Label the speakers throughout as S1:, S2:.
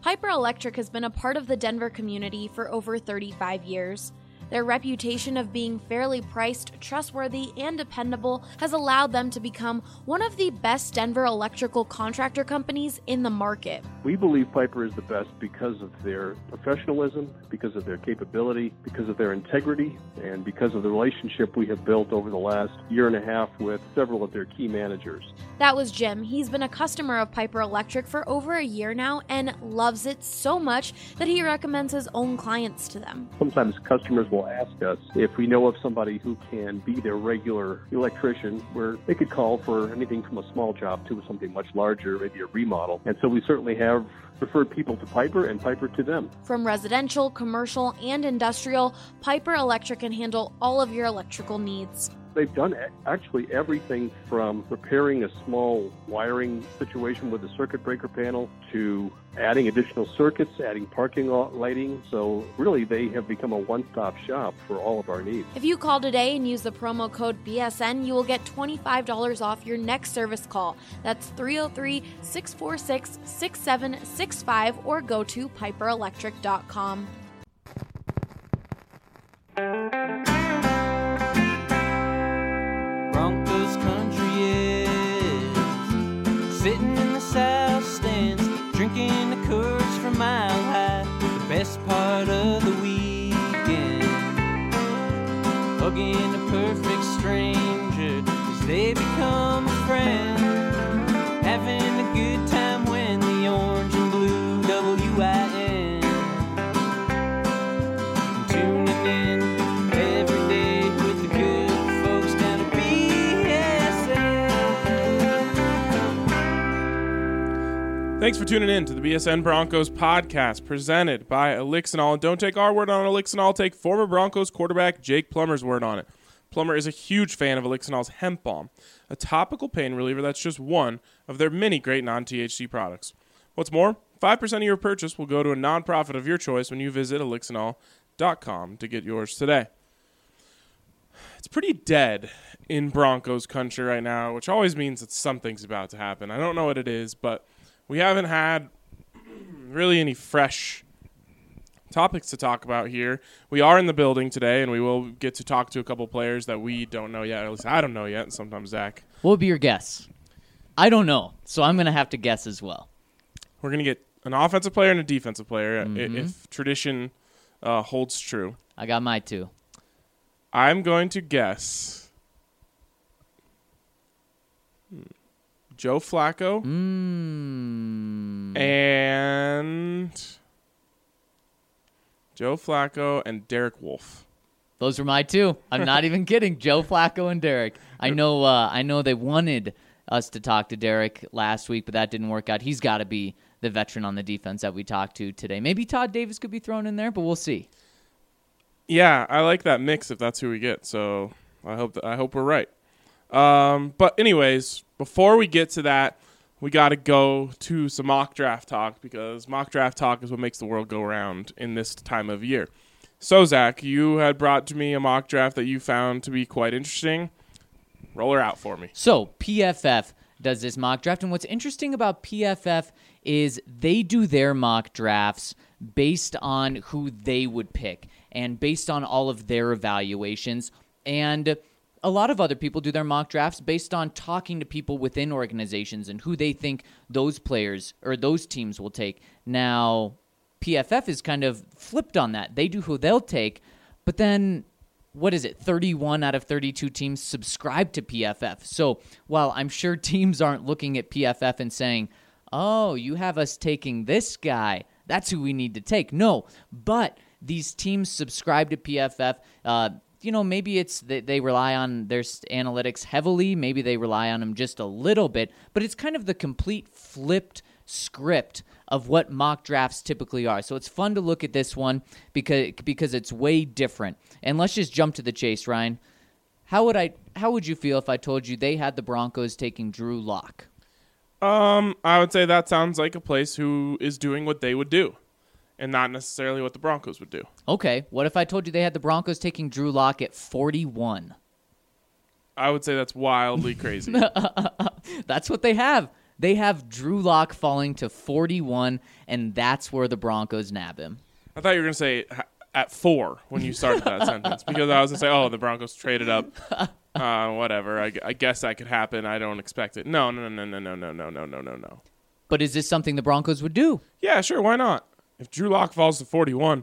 S1: Piper Electric has been a part of the Denver community for over 35 years. Their reputation of being fairly priced, trustworthy, and dependable has allowed them to become one of the best Denver electrical contractor companies in the market.
S2: We believe Piper is the best because of their professionalism, because of their capability, because of their integrity, and because of the relationship we have built over the last year and a half with several of their key managers.
S1: That was Jim. He's been a customer of Piper Electric for over a year now and loves it so much that he recommends his own clients to them.
S2: Sometimes customers will ask us if we know of somebody who can be their regular electrician, where they could call for anything from a small job to something much larger, maybe a remodel. And so we certainly have referred people to Piper and Piper to them.
S1: From residential, commercial, and industrial, Piper Electric can handle all of your electrical needs.
S2: They've done actually everything from repairing a small wiring situation with a circuit breaker panel to adding additional circuits, adding parking lot lighting. So really, they have become a one-stop shop for all of our needs.
S1: If you call today and use the promo code BSN, you will get $25 off your next service call. That's 303-646-6765 or go to piperelectric.com.
S3: Broncos country is sitting in the south stands, drinking the Coors from Mile High. The best part of the weekend, hugging a perfect stranger as they become a friend, having a good time when the orange and blue WIN, tuning in every day with the good folks down at BSN.
S4: Thanks for tuning in to the BSN Broncos podcast presented by Elixinol. And don't take our word on Elixinol, take former Broncos quarterback Jake Plummer's word on it. Plummer is a huge fan of Elixinol's Hemp Balm, a topical pain reliever that's just one of their many great non-THC products. What's more, 5% of your purchase will go to a nonprofit of your choice when you visit Elixinol.com to get yours today. It's pretty dead in Broncos country right now, which always means that something's about to happen. I don't know what it is, but we haven't had really any fresh topics to talk about here. We are in the building today, and we will get to talk to a couple players that we don't know yet. At least I don't know yet, and sometimes Zach.
S5: What would be your guess? I don't know, so I'm going to have to guess as well.
S4: We're going to get an offensive player and a defensive player if tradition holds true.
S5: I got my two.
S4: I'm going to guess Joe Flacco and Derek Wolfe.
S5: Those were my two. I'm not even kidding. Joe Flacco and Derek. I know they wanted us to talk to Derek last week, but that didn't work out. He's got to be the veteran on the defense that we talked to today. Maybe Todd Davis could be thrown in there, but we'll see.
S4: Yeah, I like that mix if that's who we get. So I hope we're right. But anyways, before we get to that, we got to go to some mock draft talk, because mock draft talk is what makes the world go round in this time of year. So, Zach, you had brought to me a mock draft that you found to be quite interesting. Roll her out for me.
S5: So, PFF does this mock draft, and what's interesting about PFF is they do their mock drafts based on who they would pick and based on all of their evaluations. And a lot of other people do their mock drafts based on talking to people within organizations and who they think those players or those teams will take. Now, PFF is kind of flipped on that. They do who they'll take, but then, 31 out of 32 teams subscribe to PFF. So while I'm sure teams aren't looking at PFF and saying, oh, you have us taking this guy, that's who we need to take. No, but these teams subscribe to PFF. Maybe it's that they rely on their analytics heavily. Maybe they rely on them just a little bit. But it's kind of the complete flipped script of what mock drafts typically are. So it's fun to look at this one because it's way different. And let's just jump to the chase, Ryan. How would you feel if I told you they had the Broncos taking Drew Lock?
S4: I would say that sounds like a place who is doing what they would do, and not necessarily what the Broncos would do.
S5: Okay, what if I told you they had the Broncos taking Drew Lock at 41?
S4: I would say that's wildly crazy.
S5: That's what they have. They have Drew Lock falling to 41, and that's where the Broncos nab him.
S4: I thought you were going to say at 4 when you started that sentence, because I was going to say, oh, the Broncos traded up. Whatever. I guess that could happen. I don't expect it. No.
S5: But is this something the Broncos would do?
S4: Yeah, sure. Why not? If Drew Lock falls to 41,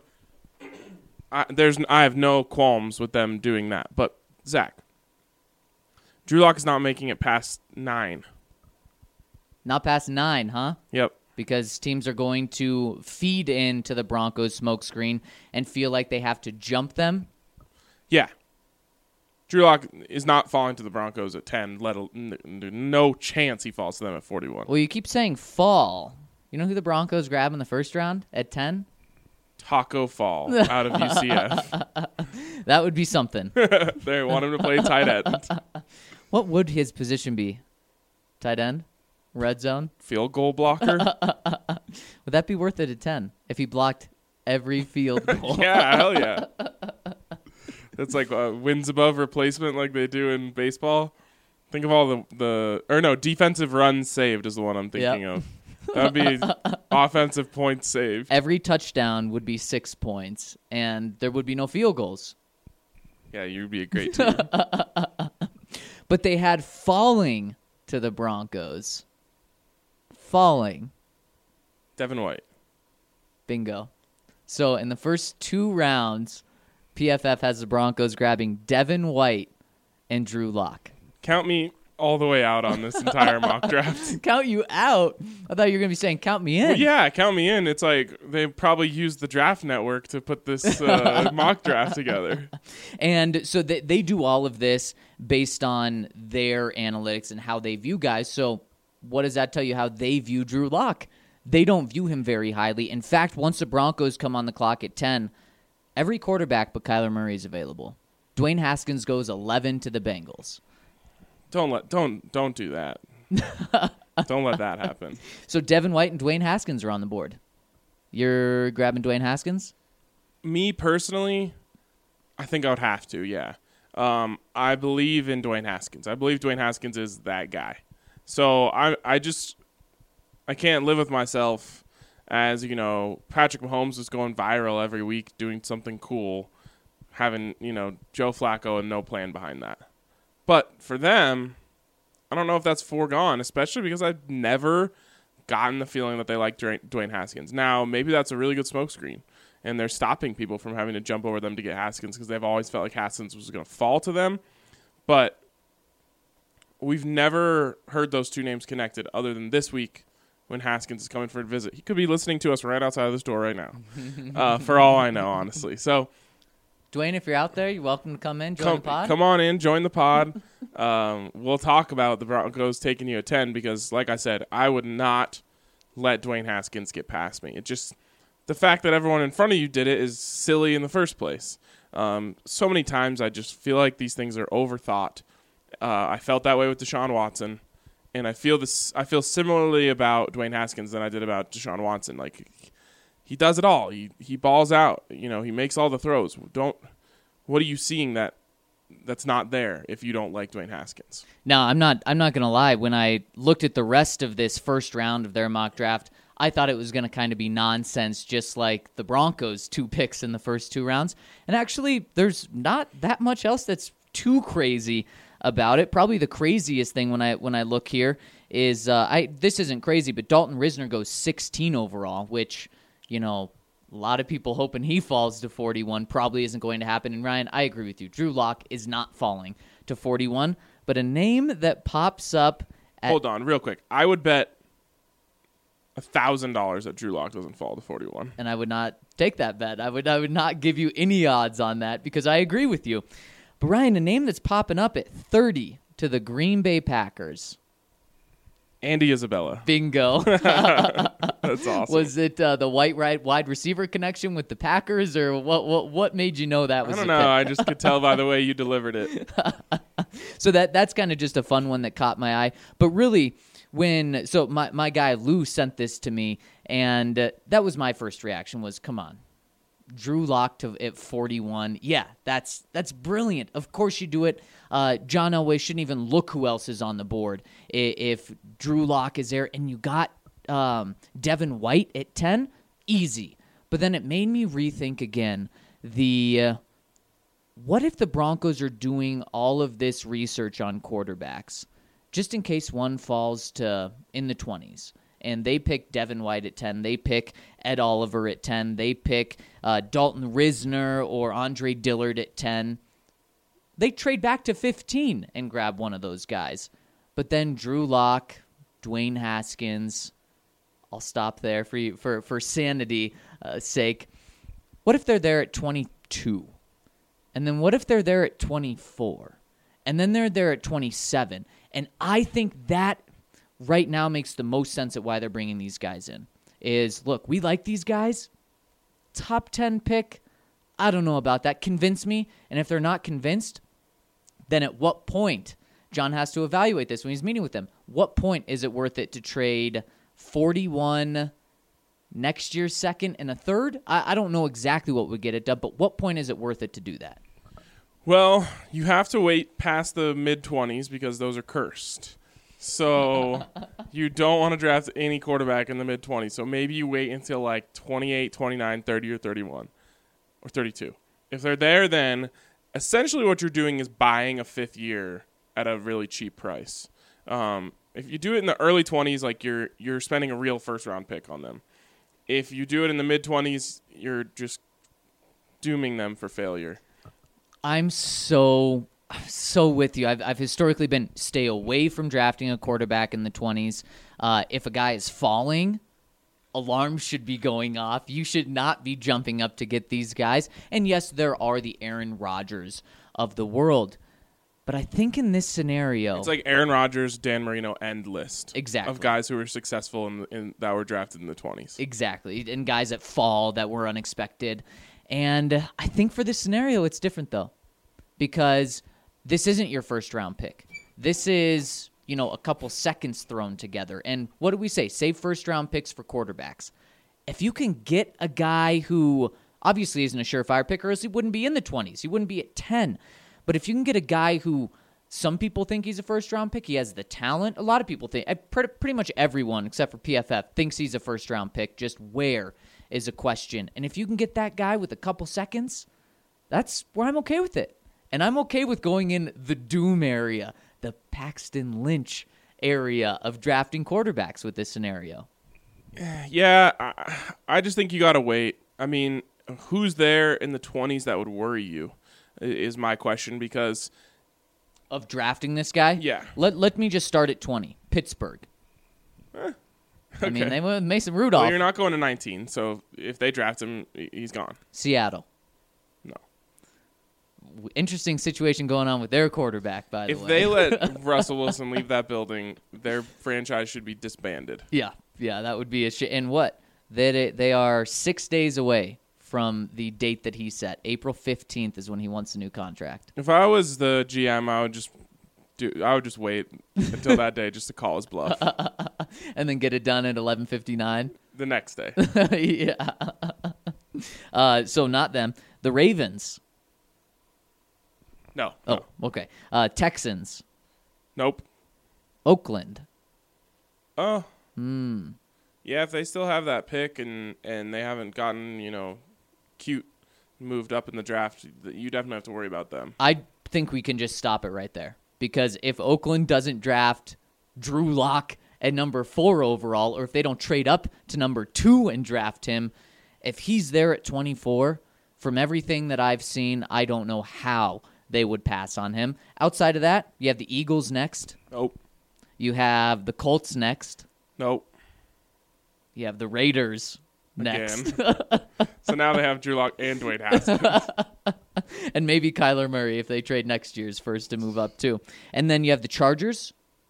S4: I have no qualms with them doing that. But Zach, Drew Lock is not making it past 9.
S5: Not past 9, huh?
S4: Yep.
S5: Because teams are going to feed into the Broncos' smokescreen and feel like they have to jump them.
S4: Yeah. Drew Lock is not falling to the Broncos at 10. No chance he falls to them at 41.
S5: Well, you keep saying fall. You know who the Broncos grab in the first round at 10?
S4: Taco Fall out of UCF.
S5: That would be something.
S4: They want him to play tight end.
S5: What would his position be? Tight end? Red zone?
S4: Field goal blocker?
S5: Would that be worth it at 10 if he blocked every field goal?
S4: Yeah, hell yeah. It's like wins above replacement like they do in baseball. Think of all defensive runs saved is the one I'm thinking of. That would be offensive points saved.
S5: Every touchdown would be 6 points, and there would be no field goals.
S4: Yeah, you'd be a great team.
S5: But they had falling to the Broncos. Falling.
S4: Devin White.
S5: Bingo. So in the first 2 rounds, PFF has the Broncos grabbing Devin White and Drew Lock.
S4: Count me all the way out on this entire mock draft.
S5: Count you out? I thought you were going to be saying count me in.
S4: Well, yeah, count me in. It's like they probably used the draft network to put this mock draft together.
S5: And so they do all of this based on their analytics and how they view guys. So what does that tell you how they view Drew Lock? They don't view him very highly. In fact, once the Broncos come on the clock at 10, every quarterback but Kyler Murray is available. Dwayne Haskins goes 11 to the Bengals.
S4: Don't do that. Don't let that happen.
S5: So Devin White and Dwayne Haskins are on the board. You're grabbing Dwayne Haskins?
S4: Me personally, I think I would have to, yeah. I believe in Dwayne Haskins. I believe Dwayne Haskins is that guy. So I can't live with myself as, Patrick Mahomes is going viral every week doing something cool, having, Joe Flacco and no plan behind that. But for them, I don't know if that's foregone, especially because I've never gotten the feeling that they like Dwayne Haskins. Now, maybe that's a really good smokescreen, and they're stopping people from having to jump over them to get Haskins because they've always felt like Haskins was going to fall to them. But we've never heard those two names connected other than this week when Haskins is coming for a visit. He could be listening to us right outside of this door right now, for all I know, honestly. So,
S5: Dwayne, if you're out there, you're welcome to come in, join the pod.
S4: Come on in, join the pod. We'll talk about the Broncos taking you at 10 because, like I said, I would not let Dwayne Haskins get past me. It just the fact that everyone in front of you did it is silly in the first place. So many times I just feel like these things are overthought. I felt that way with Deshaun Watson, and I feel similarly about Dwayne Haskins than I did about Deshaun Watson. Like, he does it all. He balls out. He makes all the throws. What are you seeing that's not there if you don't like Dwayne Haskins?
S5: No, I'm not going to lie. When I looked at the rest of this first round of their mock draft, I thought it was going to kind of be nonsense, just like the Broncos' 2 picks in the first 2 rounds. And actually, there's not that much else that's too crazy about it. Probably the craziest thing when I look here is this isn't crazy, but Dalton Risner goes 16 overall, which, a lot of people hoping he falls to 41 probably isn't going to happen. And Ryan, I agree with you. Drew Lock is not falling to 41, but a name that pops up
S4: Hold on, real quick. I would bet $1,000 that Drew Lock doesn't fall to 41.
S5: And I would not take that bet. I would not give you any odds on that because I agree with you. But Ryan, a name that's popping up at 30 to the Green Bay Packers.
S4: Andy Isabella.
S5: Bingo.
S4: That's awesome.
S5: Was it the white wide receiver connection with the Packers, or what made you know that was?
S4: I don't know. I just could tell by the way you delivered it.
S5: So that's kind of just a fun one that caught my eye. But really, my guy Lou sent this to me, and that was my first reaction was, come on. Drew Lock at 41. Yeah, that's brilliant. Of course you do it. John Elway shouldn't even look who else is on the board if Drew Lock is there. And you got Devin White at 10. Easy. But then it made me rethink again what if the Broncos are doing all of this research on quarterbacks just in case one falls to in the 20s? And they pick Devin White at 10. They pick Ed Oliver at 10. They pick Dalton Risner or Andre Dillard at 10. They trade back to 15 and grab one of those guys. But then Drew Lock, Dwayne Haskins, I'll stop there for sanity sake. What if they're there at 22? And then what if they're there at 24? And then they're there at 27? And I think that right now makes the most sense at why they're bringing these guys in. Is, look, we like these guys. Top 10 pick, I don't know about that. Convince me. And if they're not convinced, then at what point, John has to evaluate this when he's meeting with them. What point is it worth it to trade 41 next year's second and a third? I don't know exactly what would get it done, but what point is it worth it to do that?
S4: Well, you have to wait past the mid-20s because those are cursed. So you don't want to draft any quarterback in the mid-20s. So maybe you wait until like 28, 29, 30, or 31, or 32. If they're there, then essentially what you're doing is buying a fifth year at a really cheap price. If you do it in the early 20s, like you're spending a real first-round pick on them. If you do it in the mid-20s, you're just dooming them for failure.
S5: I'm so with you. I've historically been stay away from drafting a quarterback in the 20s. If a guy is falling, alarms should be going off. You should not be jumping up to get these guys. And yes, there are the Aaron Rodgers of the world. But I think in this scenario,
S4: it's like Aaron Rodgers, Dan Marino end list.
S5: Exactly.
S4: Of guys who were successful in that were drafted in the 20s.
S5: Exactly. And guys that fall that were unexpected. And I think for this scenario, it's different, though, because this isn't your first-round pick. This is, a couple seconds thrown together. And what do we say? Save first-round picks for quarterbacks. If you can get a guy who obviously isn't a surefire pick, or else he wouldn't be in the 20s. He wouldn't be at 10. But if you can get a guy who some people think he's a first-round pick, he has the talent. A lot of people think, pretty much everyone except for PFF, thinks he's a first-round pick. Just where is a question. And if you can get that guy with a couple seconds, that's where I'm okay with it. And I'm okay with going in the doom area, the Paxton Lynch area of drafting quarterbacks with this scenario.
S4: Yeah, I just think you got to wait. I mean, who's there in the 20s that would worry you is my question, because
S5: of drafting this guy?
S4: Yeah.
S5: Let me just start at 20. Pittsburgh.
S4: Okay.
S5: I mean, they went with Mason Rudolph.
S4: Well, you're not going to 19, so if they draft him, he's gone.
S5: Seattle.
S4: No.
S5: Interesting situation going on with their quarterback, by the way.
S4: If they let Russell Wilson leave that building, their franchise should be disbanded.
S5: Yeah, that would be a shit. And what? They are 6 days away from the date that he set. April 15th is when he wants a new contract.
S4: If I was the GM, I would just wait until that day just to call his bluff.
S5: And then get it done at 11:59
S4: the next day.
S5: Yeah. So not them. The Ravens.
S4: No.
S5: Oh, okay. Texans.
S4: Nope.
S5: Oakland.
S4: Oh. Yeah, if they still have that pick and they haven't gotten, cute moved up in the draft, you definitely have to worry about them.
S5: I think we can just stop it right there. Because if Oakland doesn't draft Drew Lock at number 4 overall, or if they don't trade up to number 2 and draft him, if he's there at 24, from everything that I've seen, I don't know how they would pass on him. Outside of that, you have the Eagles next.
S4: Nope.
S5: You have the Colts next.
S4: Nope.
S5: You have the Raiders next.
S4: Again. So now they have Drew Lock and Dwayne Haskins.
S5: And maybe Kyler Murray if they trade next year's first to move up too. And then you have the Chargers.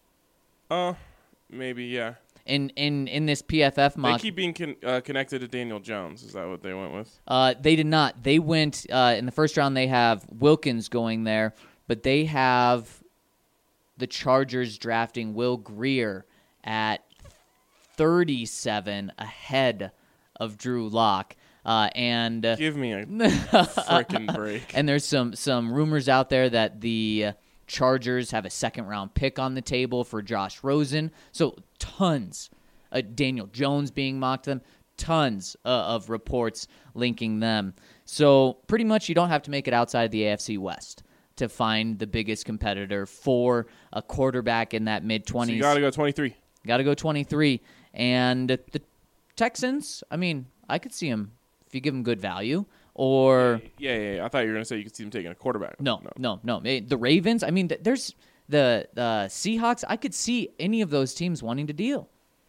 S4: Maybe, yeah.
S5: In this PFF mock,
S4: they keep being connected to Daniel Jones. Is that what they went with?
S5: They did not. They went in the first round. They have Wilkins going there, but they have the Chargers drafting Will Grier at 37 ahead of Drew Lock. And
S4: Give me a freaking break.
S5: And there's some rumors out there that the Chargers have a second-round pick on the table for Josh Rosen. So tons. Daniel Jones being mocked to them. Tons of reports linking them. So pretty much you don't have to make it outside the AFC West to find the biggest competitor for a quarterback in that mid-20s.
S4: So you got to go 23.
S5: Got to go 23. And the Texans, I mean, I could see them if you give them good value. Or
S4: Yeah. I thought you were going to say you could see them taking a quarterback.
S5: No. The Ravens, I mean, there's the Seahawks. I could see any of those teams wanting to deal.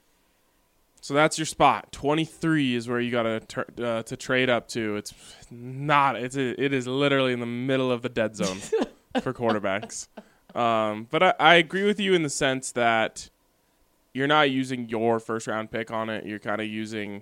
S4: So that's your spot. 23 is where you got to trade up to. It's not. It is literally in the middle of the dead zone for quarterbacks. But I agree with you in the sense that you're not using your first round pick on it. You're kind of using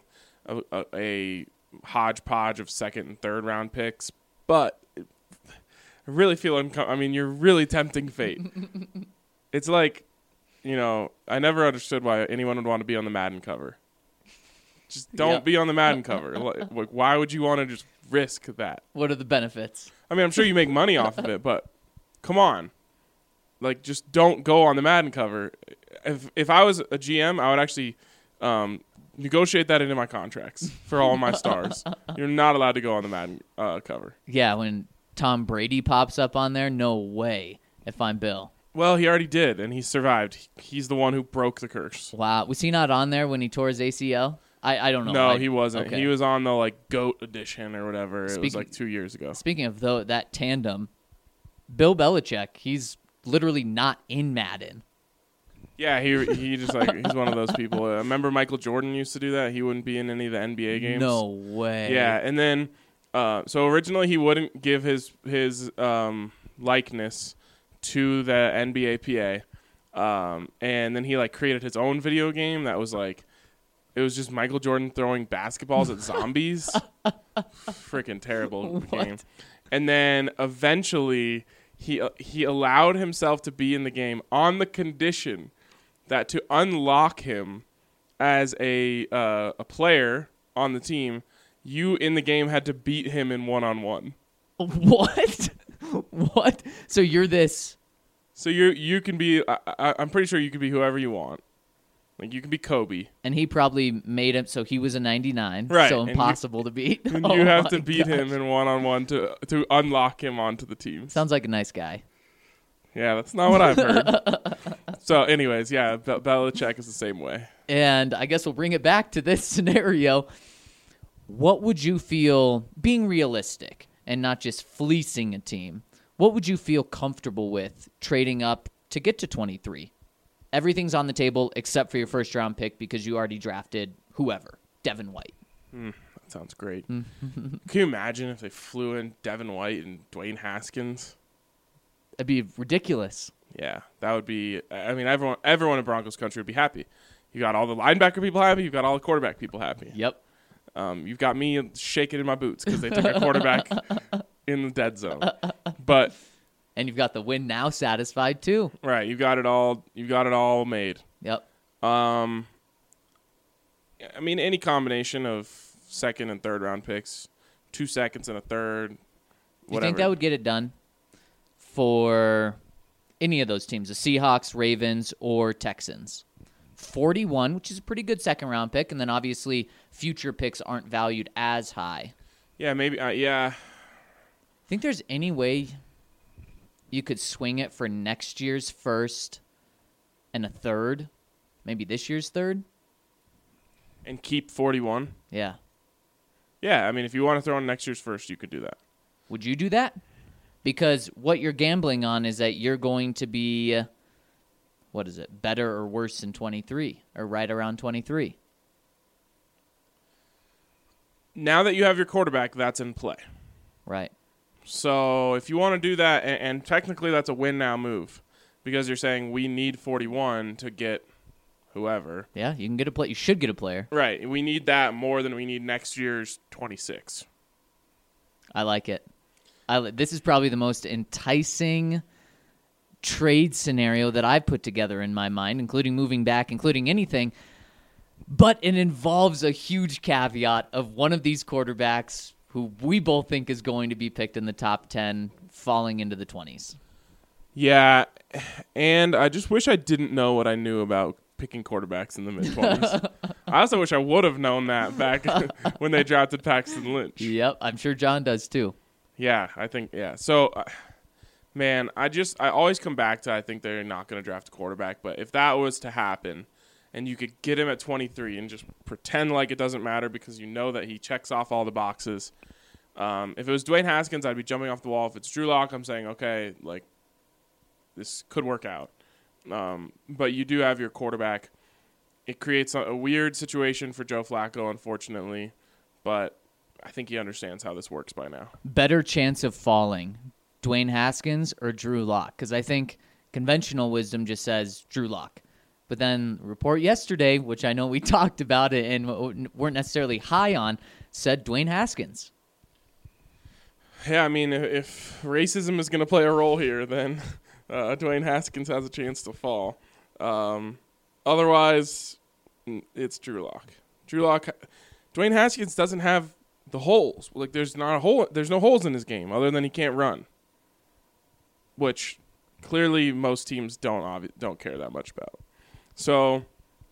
S4: a hodgepodge of second and third round picks. But I really feel you're really tempting fate. It's like, I never understood why anyone would want to be on the Madden cover. Just don't be on the Madden cover. Like, why would you want to just risk that?
S5: What are the benefits?
S4: I mean, I'm sure you make money off of it, but come on. Like, just don't go on the Madden cover. If I was a GM, I would actually negotiate that into my contracts for all my stars. You're not allowed to go on the Madden cover.
S5: Yeah, when Tom Brady pops up on there, no way if I'm Bill.
S4: Well, he already did, and he survived. He's the one who broke the curse.
S5: Wow. Was he not on there when he tore his ACL? I don't know.
S4: No, he wasn't.
S5: Okay.
S4: He was on the GOAT edition or whatever. It was 2 years ago.
S5: Speaking of that tandem, Bill Belichick, he's literally not in Madden.
S4: Yeah, he just he's one of those people. Remember Michael Jordan used to do that? He wouldn't be in any of the NBA games.
S5: No way.
S4: Yeah, and then so originally he wouldn't give his likeness to the NBA PA, and then he created his own video game that was it was just Michael Jordan throwing basketballs at zombies. Freaking terrible game. And then eventually he allowed himself to be in the game on the condition that to unlock him as a player on the team, you in the game had to beat him in one-on-one.
S5: What? What? So you're this?
S4: So you can be. I'm pretty sure you can be whoever you want. You can be Kobe.
S5: And he probably made him so he was a 99.
S4: Right.
S5: So impossible to beat.
S4: And you have to beat him in one-on-one to unlock him onto the team.
S5: Sounds like a nice guy.
S4: Yeah, that's not what I've heard. So, anyways, yeah, Belichick is the same way.
S5: And I guess we'll bring it back to this scenario. What would you feel, being realistic and not just fleecing a team, what would you feel comfortable with trading up to get to 23? Everything's on the table except for your first-round pick because you already drafted whoever, Devin White.
S4: That sounds great. Can you imagine if they flew in Devin White and Dwayne Haskins?
S5: That'd be ridiculous.
S4: Yeah, that would be. I mean, everyone in Broncos country would be happy. You got all the linebacker people happy. You've got all the quarterback people happy.
S5: Yep.
S4: You've got me shaking in my boots because they took a quarterback in the dead zone. But
S5: and you've got the win now satisfied too.
S4: Right, you got it all. You got it all made.
S5: Yep.
S4: I mean, any combination of second and third round picks, 2 seconds and a third.
S5: You think that would get it done for any of those teams, the Seahawks, Ravens, or Texans? 41, which is a pretty good second-round pick, and then obviously future picks aren't valued as high.
S4: Yeah, maybe. Yeah.
S5: Think there's any way you could swing it for next year's first and a third, maybe this year's third?
S4: And keep 41?
S5: Yeah.
S4: Yeah, I mean, if you want to throw in next year's first, you could do that.
S5: Would you do that? Because what you're gambling on is that you're going to be, what is it, better or worse than 23, or right around 23.
S4: Now that you have your quarterback, that's in play.
S5: Right.
S4: So if you want to do that, and technically that's a win now move, because you're saying we need 41 to get whoever.
S5: Yeah, you can get a play. You should get a player.
S4: Right. We need that more than we need next year's 26.
S5: I like it. This is probably the most enticing trade scenario that I've put together in my mind, including moving back, including anything. But it involves a huge caveat of one of these quarterbacks who we both think is going to be picked in the top 10 falling into the 20s.
S4: Yeah, and I just wish I didn't know what I knew about picking quarterbacks in the mid-20s. I also wish I would have known that back when they drafted Paxton Lynch.
S5: Yep, I'm sure John does too.
S4: Yeah, I think, yeah. So, man, I always come back to I think they're not going to draft a quarterback, but if that was to happen and you could get him at 23 and just pretend like it doesn't matter because you know that he checks off all the boxes. If it was Dwayne Haskins, I'd be jumping off the wall. If it's Drew Lock, I'm saying, okay, like, this could work out. But you do have your quarterback. It creates a weird situation for Joe Flacco, unfortunately, but I think he understands how this works by now.
S5: Better chance of falling, Dwayne Haskins or Drew Lock? Because I think conventional wisdom just says Drew Lock. But then the report yesterday, which I know we talked about it and weren't necessarily high on, said Dwayne Haskins.
S4: Yeah, I mean, if racism is going to play a role here, then Dwayne Haskins has a chance to fall. Otherwise, it's Drew Lock. Dwayne Haskins doesn't have the holes. Like, there's no holes in his game other than he can't run, which clearly most teams don't care that much about. So,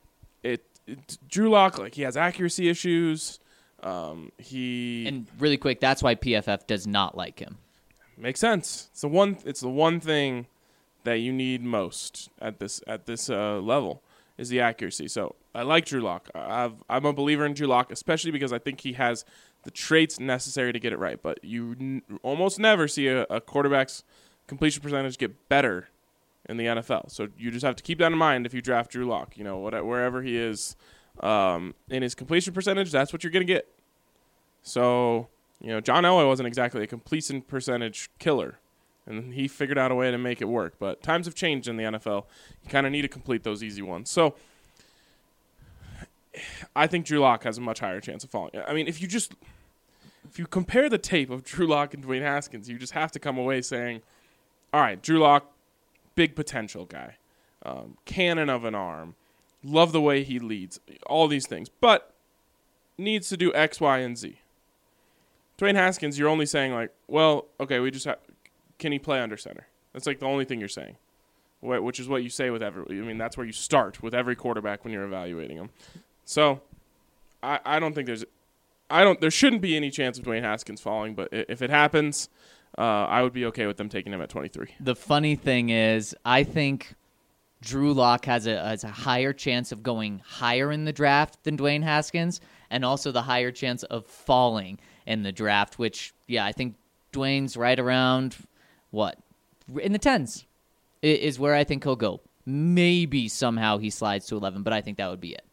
S4: Drew Lock, like, he has accuracy issues. And
S5: really quick, that's why PFF does not like him.
S4: Makes sense. It's the one thing that you need most at this level is the accuracy. So I like Drew Lock. I'm a believer in Drew Lock, especially because I think he has the traits necessary to get it right. But you almost never see a quarterback's completion percentage get better in the NFL. So you just have to keep that in mind if you draft Drew Lock. You know, wherever he is in his completion percentage, that's what you're going to get. So, you know, John Elway wasn't exactly a completion percentage killer, and he figured out a way to make it work. But times have changed in the NFL. You kind of need to complete those easy ones. So I think Drew Lock has a much higher chance of falling. I mean, if you compare the tape of Drew Lock and Dwayne Haskins, you just have to come away saying, all right, Drew Lock, big potential guy, cannon of an arm, love the way he leads, all these things, but needs to do X, Y, and Z. Dwayne Haskins, you're only saying, like, well, okay, can he play under center? That's like the only thing you're saying, which is what you say with that's where you start with every quarterback when you're evaluating them. So I don't think there shouldn't be any chance of Dwayne Haskins falling, but if it happens, I would be okay with them taking him at 23.
S5: The funny thing is, I think Drew Lock has a higher chance of going higher in the draft than Dwayne Haskins, and also the higher chance of falling in the draft, which, yeah, I think Dwayne's right around, in the 10s is where I think he'll go. Maybe somehow he slides to 11, but I think that would be it.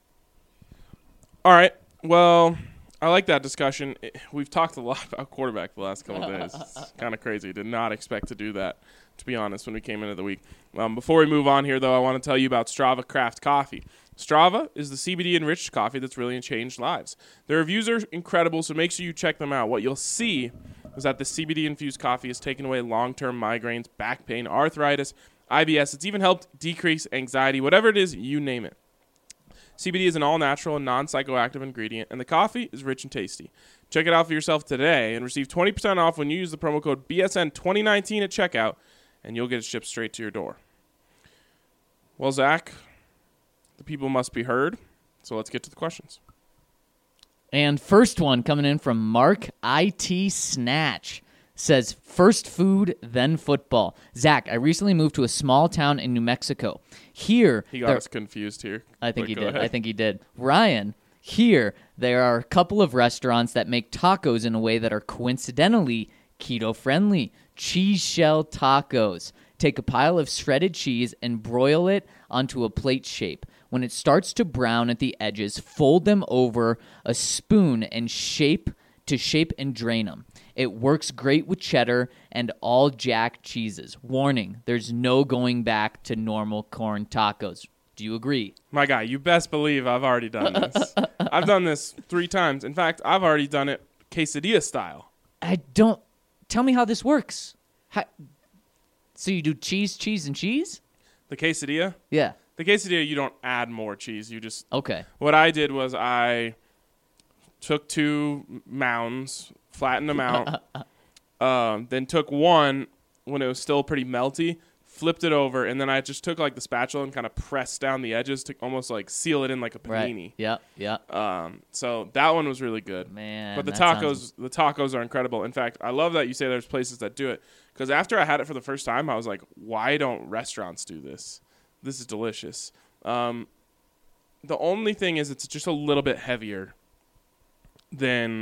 S4: All right, well, I like that discussion. We've talked a lot about quarterback the last couple of days. It's kind of crazy. Did not expect to do that, to be honest, when we came into the week. Before we move on here, though, I want to tell you about Strava Craft Coffee. Strava is the CBD-enriched coffee that's really changed lives. Their reviews are incredible, so make sure you check them out. What you'll see is that the CBD-infused coffee has taken away long-term migraines, back pain, arthritis, IBS. It's even helped decrease anxiety, whatever it is, you name it. CBD is an all-natural and non-psychoactive ingredient, and the coffee is rich and tasty. Check it out for yourself today and receive 20% off when you use the promo code BSN2019 at checkout, and you'll get it shipped straight to your door. Well, Zach, the people must be heard, so let's get to the questions.
S5: And first one coming in from Mark IT Snatch. Says, first food, then football. Zach, I recently moved to a small town in New Mexico. Here...
S4: He got us confused here.
S5: I think he did. Ryan, here, there are a couple of restaurants that make tacos in a way that are coincidentally keto-friendly. Cheese shell tacos. Take a pile of shredded cheese and broil it onto a plate shape. When it starts to brown at the edges, fold them over a spoon and shape and drain them. It works great with cheddar and all Jack cheeses. Warning, there's no going back to normal corn tacos. Do you agree?
S4: My guy, you best believe I've already done this. I've done this 3 times. In fact, I've already done it quesadilla style.
S5: Tell me how this works. So you do cheese, and cheese?
S4: The quesadilla?
S5: Yeah.
S4: The quesadilla, you don't add more cheese. You just
S5: Okay.
S4: What I did was I took 2 mounds, flattened them out, then took one when it was still pretty melty, flipped it over, and then I just took like the spatula and kind of pressed down the edges to almost like seal it in like a panini.
S5: Right. Yep.
S4: So that one was really good.
S5: Man,
S4: but the
S5: that
S4: tacos are incredible. In fact, I love that you say there's places that do it, because after I had it for the first time, I was like, why don't restaurants do this? This is delicious. The only thing is it's just a little bit heavier than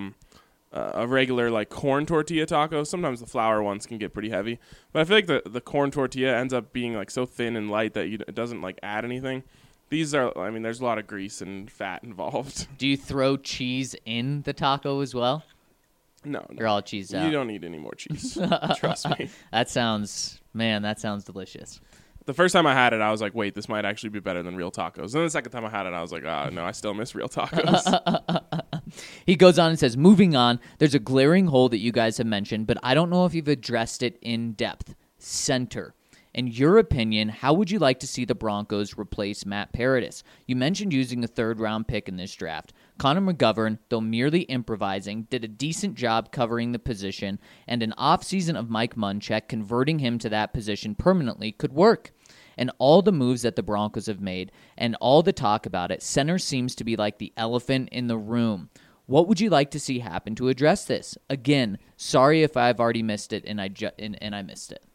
S4: a regular like corn tortilla taco. Sometimes the flour ones can get pretty heavy, but I feel like the corn tortilla ends up being like so thin and light that it doesn't like add anything. These are, I mean, there's a lot of grease and fat involved.
S5: Do you throw cheese in the taco as well?
S4: No.
S5: You're all cheesed out.
S4: You don't need any more cheese. Trust me.
S5: That sounds delicious.
S4: The first time I had it, I was like, wait, this might actually be better than real tacos. And the second time I had it, I was like, no, I still miss real tacos.
S5: He goes on and says, moving on, there's a glaring hole that you guys have mentioned, but I don't know if you've addressed it in depth. Center. In your opinion, how would you like to see the Broncos replace Matt Paradis? You mentioned using a third-round pick in this draft. Connor McGovern, though merely improvising, did a decent job covering the position, and an offseason of Mike Munchak converting him to that position permanently could work. And all the moves that the Broncos have made, and all the talk about it, center seems to be like the elephant in the room. What would you like to see happen to address this? Again, sorry if I've already missed it and I missed it.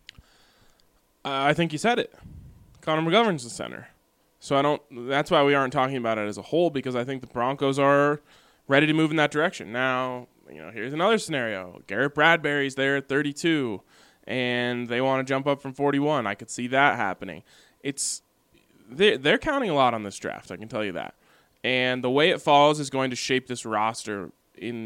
S4: I think you said it. Connor McGovern's the center. So that's why we aren't talking about it as a whole, because I think the Broncos are ready to move in that direction. Now, here's another scenario. Garrett Bradbury's there at 32, and they want to jump up from 41. I could see that happening. They're counting a lot on this draft, I can tell you that. And the way it falls is going to shape this roster in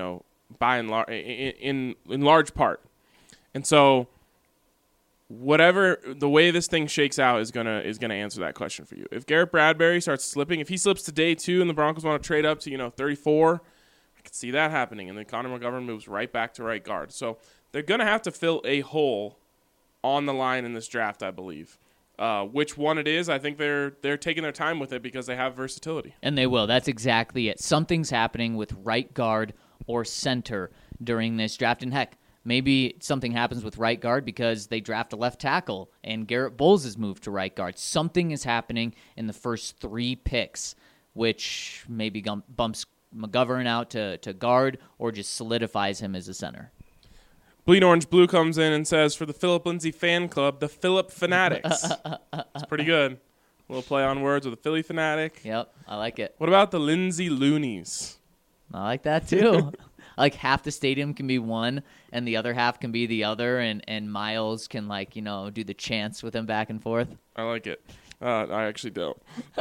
S4: large part. And so whatever the way this thing shakes out is gonna answer that question for you. If Garrett Bradbury starts slipping, if he slips to day 2 and the Broncos want to trade up to 34, I could see that happening, and then Connor McGovern moves right back to right guard. So they're gonna have to fill a hole on the line in this draft, I believe. Which one it is, I think they're taking their time with it because they have versatility.
S5: And they will. That's exactly it. Something's happening with right guard or center during this draft, and heck, maybe something happens with right guard because they draft a left tackle and Garrett Bowles is moved to right guard. Something is happening in the first 3 picks, which maybe bumps McGovern out to guard or just solidifies him as a center.
S4: Bleed Orange Blue comes in and says, for the Philip Lindsay fan club, the Philip Fanatics. It's pretty good. A little play on words with a Philly fanatic.
S5: Yep, I like it.
S4: What about the Lindsay Loonies?
S5: I like that too. Like half the stadium can be one and the other half can be the other, and Miles can do the chants with him back and forth.
S4: I like it. I actually don't.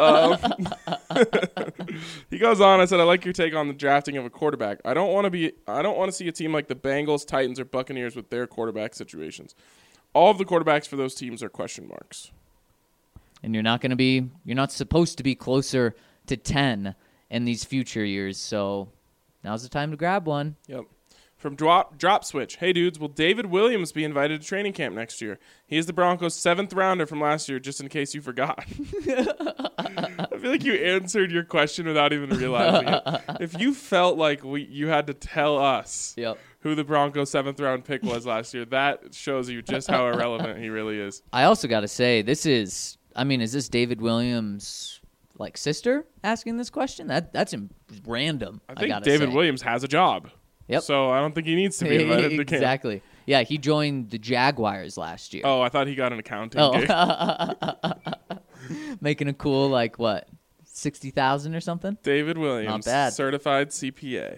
S4: He goes on. I said, I like your take on the drafting of a quarterback. I don't want to see a team like the Bengals, Titans, or Buccaneers with their quarterback situations. All of the quarterbacks for those teams are question marks.
S5: And you're not supposed to be closer to 10 in these future years, so now's the time to grab one.
S4: Yep. From Drop Switch. Hey, dudes, will David Williams be invited to training camp next year? He is the Broncos' 7th rounder from last year, just in case you forgot. I feel like you answered your question without even realizing it. If you felt like you had to tell us who the Broncos' 7th round pick was last year, that shows you just how irrelevant he really is.
S5: I also got to say, is this David Williams' sister asking this question? That's random.
S4: I think David Williams has a job.
S5: Yep.
S4: So I don't think he needs to be invited to camp.
S5: Exactly. Yeah, he joined the Jaguars last year.
S4: Oh, I thought he got an accounting gig.
S5: Making a cool, $60,000 or something?
S4: David Williams.
S5: Not bad.
S4: Certified CPA.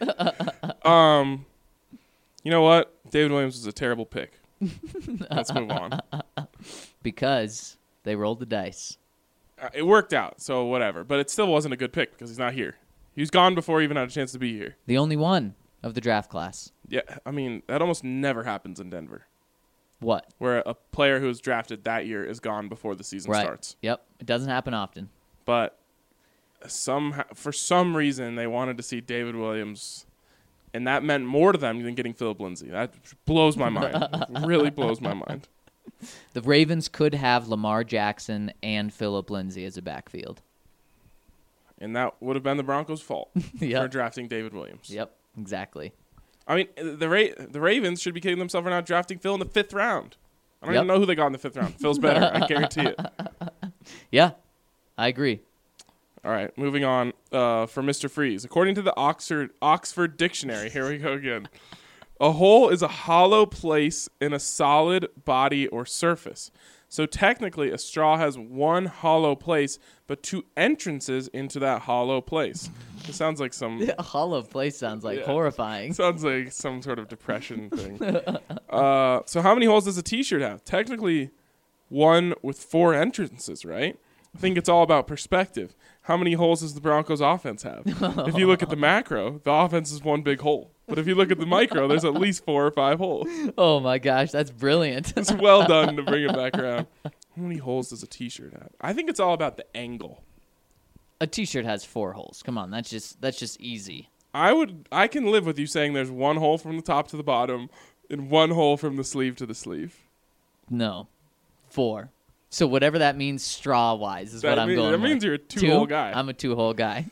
S4: You know what? David Williams was a terrible pick. Let's move on.
S5: Because they rolled the dice.
S4: It worked out, so whatever. But it still wasn't a good pick because he's not here. He was gone before he even had a chance to be here.
S5: The only one of the draft class.
S4: Yeah, that almost never happens in Denver.
S5: What?
S4: Where a player who was drafted that year is gone before the season starts.
S5: Yep, it doesn't happen often.
S4: But for some reason, they wanted to see David Williams, and that meant more to them than getting Philip Lindsay. That blows my mind. It really blows my mind.
S5: The Ravens could have Lamar Jackson and Phillip Lindsay as a backfield.
S4: And that would have been the Broncos' fault
S5: Yep.
S4: for drafting David Williams.
S5: Yep, exactly.
S4: I mean, the Ravens should be kicking themselves for not drafting Phil in the 5th round. I don't
S5: Yep.
S4: even know who they got in the 5th round. Phil's better, I guarantee it.
S5: Yeah, I agree.
S4: All right, moving on for Mr. Freeze. According to the Oxford Dictionary, here we go again. A hole is a hollow place in a solid body or surface. So technically, a straw has one hollow place, but 2 entrances into that hollow place. It sounds like some
S5: A hollow place sounds like horrifying.
S4: sounds like some sort of depression thing. So how many holes does a T-shirt have? Technically, 1 with 4 entrances, right? I think it's all about perspective. How many holes does the Broncos offense have? If you look at the macro, the offense is one big hole. But if you look at the micro, there's at least 4 or 5 holes.
S5: Oh my gosh, that's brilliant.
S4: It's well done to bring it back around. How many holes does a T-shirt have? I think it's all about the angle.
S5: A T-shirt has 4 holes. Come on, that's just easy.
S4: I can live with you saying there's 1 hole from the top to the bottom and 1 hole from the sleeve to the sleeve.
S5: No, 4. So whatever that means straw-wise is what I'm going with.
S4: That means you're a 2-hole guy.
S5: I'm a 2-hole guy.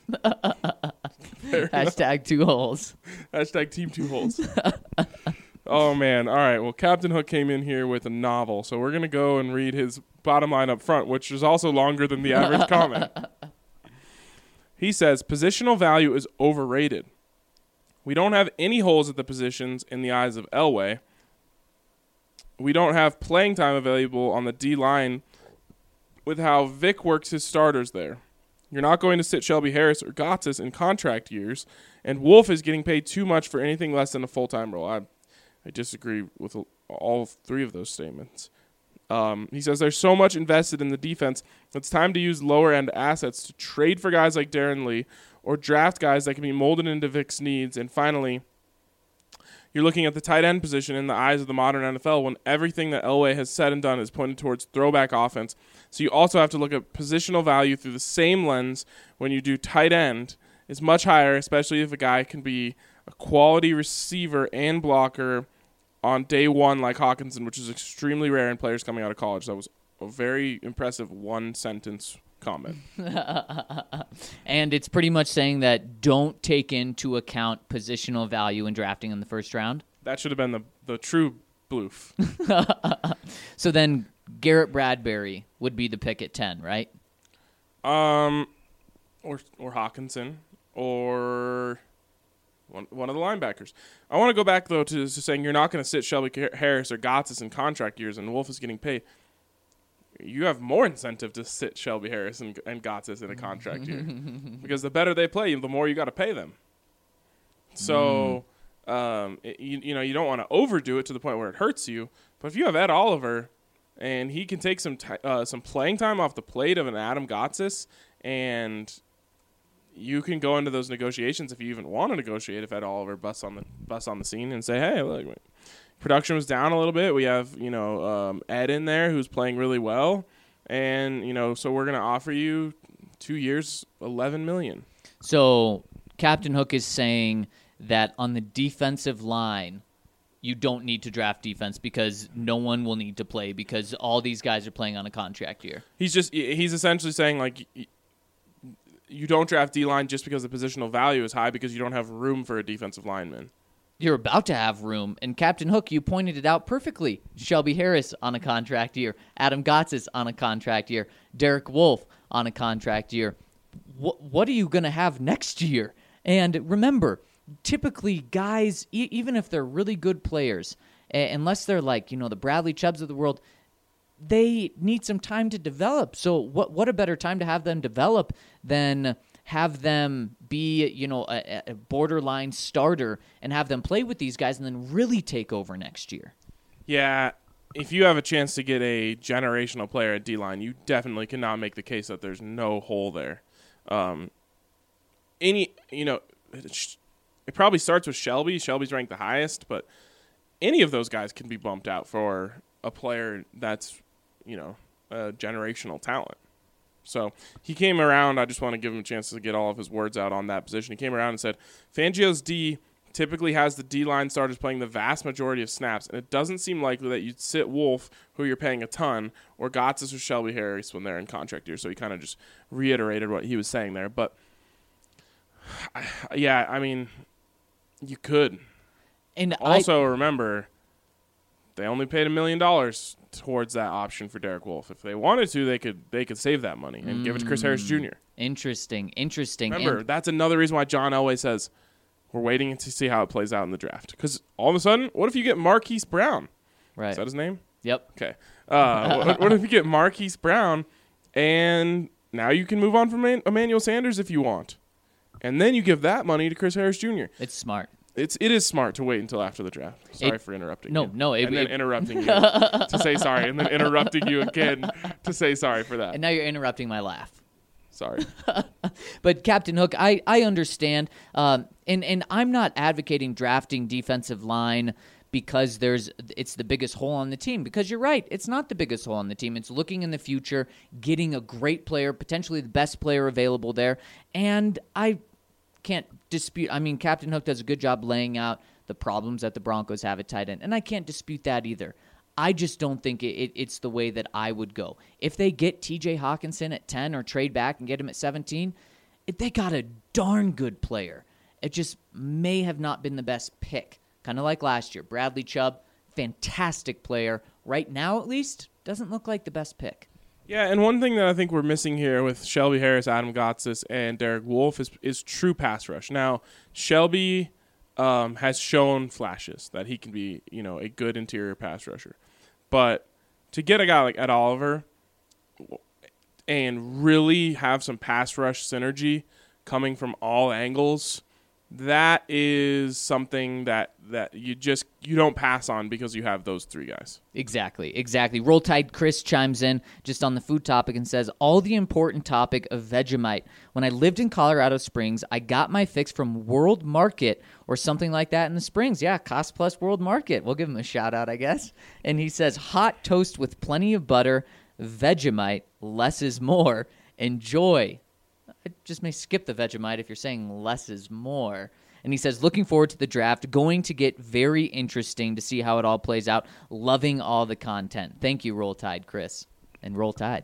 S4: Fair enough.
S5: Hashtag 2 holes.
S4: Hashtag team 2 holes. Oh, man. All right. Well, Captain Hook came in here with a novel, so we're going to go and read his bottom line up front, which is also longer than the average comment. He says, positional value is overrated. We don't have any holes at the positions in the eyes of Elway. We don't have playing time available on the D-line with how Vic works his starters there. You're not going to sit Shelby Harris or Gotsis in contract years, and Wolf is getting paid too much for anything less than a full-time role. I disagree with all 3 of those statements. He says there's so much invested in the defense, it's time to use lower-end assets to trade for guys like Darren Lee or draft guys that can be molded into Vic's needs. And finally, you're looking at the tight end position in the eyes of the modern NFL when everything that Elway has said and done is pointed towards throwback offense. So you also have to look at positional value through the same lens when you do tight end. It's much higher, especially if a guy can be a quality receiver and blocker on day 1 like Hawkinson, which is extremely rare in players coming out of college. That was a very impressive 1-sentence comment.
S5: And it's pretty much saying that don't take into account positional value in drafting in the first round.
S4: That should have been the true bloof.
S5: So then Garrett Bradbury would be the pick at 10, right?
S4: Or Hawkinson, or one of the linebackers. I want to go back, though, to saying you're not going to sit Shelby Harris or Gotsis in contract years and Wolf is getting paid. You have more incentive to sit Shelby Harris and Gotsis in a contract year. Because the better they play, the more you got to pay them. So, you don't want to overdo it to the point where it hurts you. But if you have Ed Oliver and he can take some playing time off the plate of an Adam Gotsis, and you can go into those negotiations if you even want to negotiate. If Ed Oliver busts on the scene and say, "Hey, look, production was down a little bit. We have Ed in there who's playing really well, and so we're going to offer you 2 years, $11 million."
S5: So Captain Hook is saying that on the defensive line, you don't need to draft defense because no one will need to play because all these guys are playing on a contract year.
S4: He's essentially saying, like, you don't draft D-line just because the positional value is high because you don't have room for a defensive lineman.
S5: You're about to have room. And Captain Hook, you pointed it out perfectly. Shelby Harris on a contract year. Adam Gotsis on a contract year. Derek Wolfe on a contract year. What are you going to have next year? And remember, typically guys, even if they're really good players, unless they're like, the Bradley Chubbs of the world, they need some time to develop. So what a better time to have them develop than have them be, a borderline starter and have them play with these guys and then really take over next year.
S4: Yeah, if you have a chance to get a generational player at D-line, you definitely cannot make the case that there's no hole there. It probably starts with Shelby. Shelby's ranked the highest, but any of those guys can be bumped out for a player that's, a generational talent. So he came around. I just want to give him a chance to get all of his words out on that position. He came around and said, Fangio's D typically has the D-line starters playing the vast majority of snaps, and it doesn't seem likely that you'd sit Wolf, who you're paying a ton, or Gotsis or Shelby Harris when they're in contract year. So he kind of just reiterated what he was saying there. But, yeah, I mean, you could.
S5: And
S4: also, remember, they only paid $1 million towards that option for Derek Wolf. If they wanted to, they could save that money and give it to Chris Harris Jr.
S5: Interesting.
S4: Remember, that's another reason why John Elway says we're waiting to see how it plays out in the draft. Because all of a sudden, what if you get Marquise Brown?
S5: Right.
S4: Is that his name?
S5: Yep.
S4: Okay. What if you get Marquise Brown, and now you can move on from Emmanuel Sanders if you want, and then you give that money to Chris Harris Jr.
S5: It's smart.
S4: It is smart to wait until after the draft. Sorry for interrupting you.
S5: No.
S4: And then interrupting you to say sorry, and then interrupting you again to say sorry for that.
S5: And now you're interrupting my laugh.
S4: Sorry.
S5: But Captain Hook, I understand, and I'm not advocating drafting defensive line because it's the biggest hole on the team. Because you're right, it's not the biggest hole on the team. It's looking in the future, getting a great player, potentially the best player available there, and I can't dispute. I mean, Captain Hook does a good job laying out the problems that the Broncos have at tight end, and I can't dispute that either. I just don't think it's the way that I would go. If they get T.J. Hawkinson at 10 or trade back and get him at 17, they got a darn good player. It just may have not been the best pick, kind of like last year. Bradley Chubb, fantastic player. Right now, at least, doesn't look like the best pick.
S4: Yeah, and one thing that I think we're missing here with Shelby Harris, Adam Gotsis, and Derek Wolf is true pass rush. Now, Shelby has shown flashes that he can be, a good interior pass rusher. But to get a guy like Ed Oliver and really have some pass rush synergy coming from all angles, that is something that you don't pass on because you have those three guys.
S5: Exactly. Roll Tide Chris chimes in just on the food topic and says, all the important topic of Vegemite. When I lived in Colorado Springs, I got my fix from World Market or something like that in the Springs. Yeah, Cost Plus World Market. We'll give him a shout out, I guess. And he says, hot toast with plenty of butter, Vegemite, less is more. Enjoy. I just may skip the Vegemite if you're saying less is more. And he says, looking forward to the draft. Going to get very interesting to see how it all plays out. Loving all the content. Thank you, Roll Tide, Chris. And Roll Tide.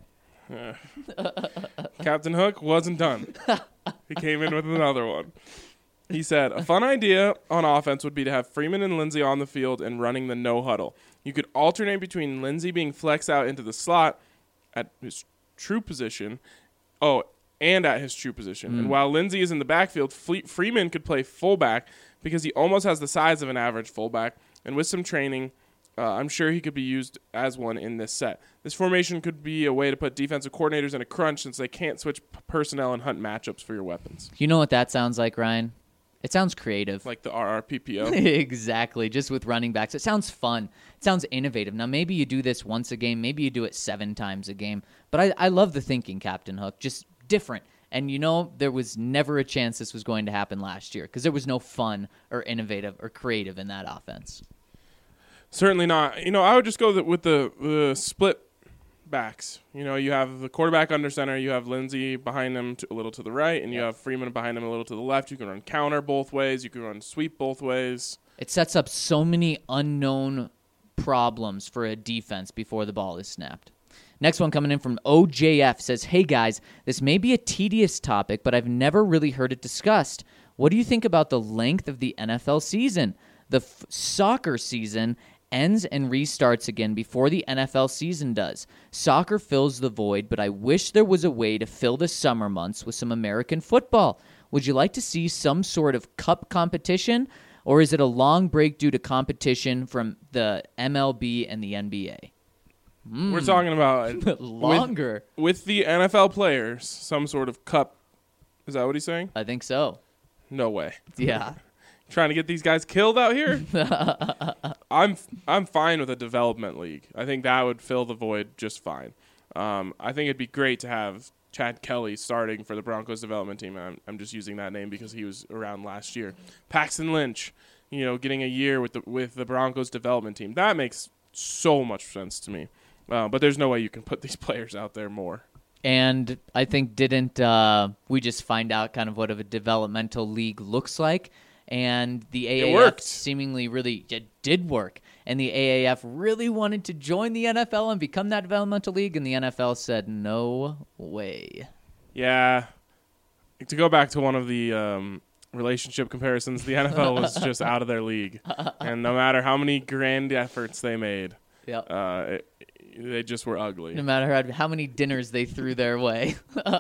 S4: Captain Hook wasn't done. He came in with another one. He said, a fun idea on offense would be to have Freeman and Lindsey on the field and running the no huddle. You could alternate between Lindsey being flexed out into the slot at his true position. And at his true position. And while Lindsey is in the backfield, Freeman could play fullback because he almost has the size of an average fullback. And with some training, I'm sure he could be used as one in this set. This formation could be a way to put defensive coordinators in a crunch since they can't switch personnel and hunt matchups for your weapons.
S5: You know what that sounds like, Ryan? It sounds creative.
S4: Like the RRPPO?
S5: Exactly, just with running backs. It sounds fun. It sounds innovative. Now, maybe you do this once a game. Maybe you do it 7 times a game. But I love the thinking, Captain Hook. Just different. And there was never a chance this was going to happen last year because there was no fun or innovative or creative in that offense.
S4: Certainly not. I would just go with the split backs. You have the quarterback under center. You have Lindsey behind him a little to the right, and you have Freeman behind him a little to the left. You can run counter both ways. You can run sweep both ways.
S5: It sets up so many unknown problems for a defense before the ball is snapped. Next one coming in from OJF says, hey guys, this may be a tedious topic, but I've never really heard it discussed. What do you think about the length of the NFL season? The soccer season ends and restarts again before the NFL season does. Soccer fills the void, but I wish there was a way to fill the summer months with some American football. Would you like to see some sort of cup competition, or is it a long break due to competition from the MLB and the NBA?
S4: We're talking about
S5: longer
S4: with the NFL players, some sort of cup. Is that what he's saying?
S5: I think so.
S4: No way.
S5: Yeah.
S4: Trying to get these guys killed out here? I'm fine with a development league. I think that would fill the void just fine. I think it'd be great to have Chad Kelly starting for the Broncos development team. I'm just using that name because he was around last year. Paxton Lynch, getting a year with the Broncos development team. That makes so much sense to me. But there's no way you can put these players out there more.
S5: And I think didn't we just find out kind of what a developmental league looks like? and the
S4: It
S5: AAF
S4: worked.
S5: seemingly really it did work. And the AAF really wanted to join the NFL and become that developmental league, and the NFL said, no way.
S4: Yeah. To go back to one of the relationship comparisons, the NFL was just out of their league. And no matter how many grand efforts they made,
S5: Yep.
S4: they just were ugly.
S5: No matter how many dinners they threw their way.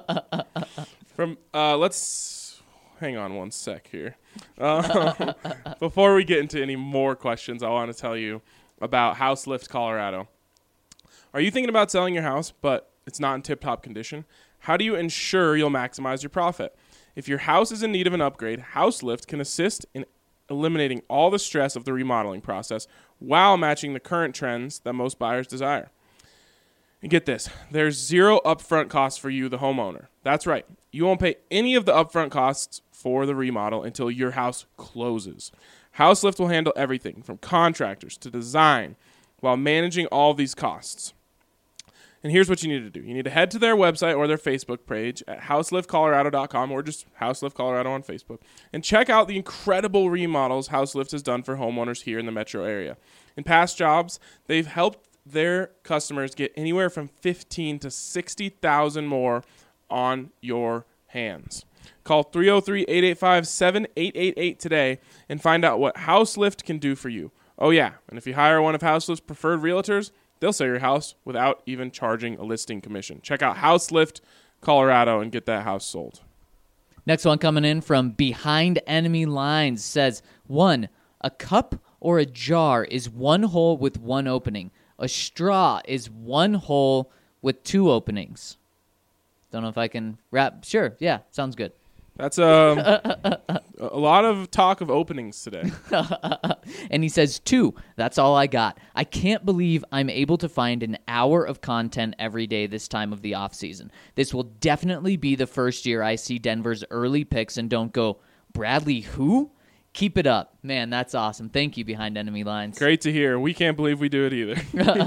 S4: Let's hang on one sec here. Before we get into any more questions, I want to tell you about House Lift Colorado. Are you thinking about selling your house, but it's not in tip-top condition? How do you ensure you'll maximize your profit? If your house is in need of an upgrade, House Lift can assist in eliminating all the stress of the remodeling process while matching the current trends that most buyers desire. And get this, there's zero upfront costs for you, the homeowner. That's right. You won't pay any of the upfront costs for the remodel until your house closes. House Lift will handle everything from contractors to design while managing all these costs. And here's what you need to do. You need to head to their website or their Facebook page at houseliftcolorado.com or just House Lift Colorado on Facebook and check out the incredible remodels House Lift has done for homeowners here in the metro area. In past jobs, they've helped their customers get anywhere from $15,000 to $60,000 more on your hands. Call 303-885-7888 today and find out what House Lift can do for you. Oh yeah, and if you hire one of House Lift's preferred realtors, they'll sell your house without even charging a listing commission. Check out House Lift Colorado and get that house sold.
S5: Next one coming in from Behind Enemy Lines says, 1, a cup or a jar is one hole with one opening. A straw is one hole with two openings. Don't know if I can wrap. Sure, yeah, sounds good.
S4: That's a lot of talk of openings today.
S5: And he says, 2, that's all I got. I can't believe I'm able to find an hour of content every day this time of the off season. This will definitely be the first year I see Denver's early picks and don't go, Bradley who? Keep it up. Man, that's awesome. Thank you, Behind Enemy Lines.
S4: Great to hear. We can't believe we do it either.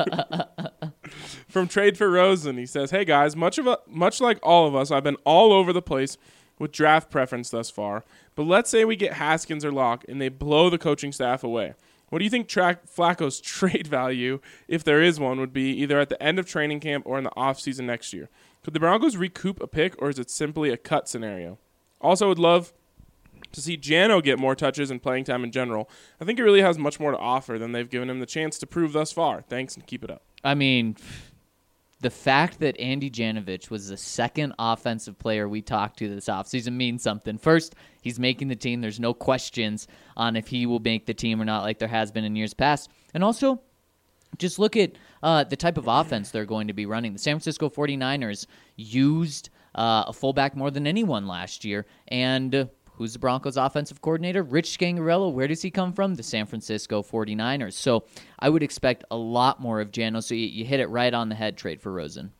S4: From Trade for Rosen, he says, hey guys, much like all of us, I've been all over the place with draft preference thus far, but let's say we get Haskins or Locke and they blow the coaching staff away. What do you think Flacco's trade value, if there is one, would be either at the end of training camp or in the offseason next year? Could the Broncos recoup a pick, or is it simply a cut scenario? Also, would love to see Jano get more touches and playing time in general. I think he really has much more to offer than they've given him the chance to prove thus far. Thanks, and keep it up.
S5: I mean, the fact that Andy Janovich was the second offensive player we talked to this offseason means something. First, he's making the team. There's no questions on if he will make the team or not like there has been in years past. And also, just look at the type of offense they're going to be running. The San Francisco 49ers used a fullback more than anyone last year. And who's the Broncos offensive coordinator? Rich Scangarello. Where does he come from? The San Francisco 49ers. So I would expect a lot more of Jano. So you hit it right on the head, Trade for Rosen.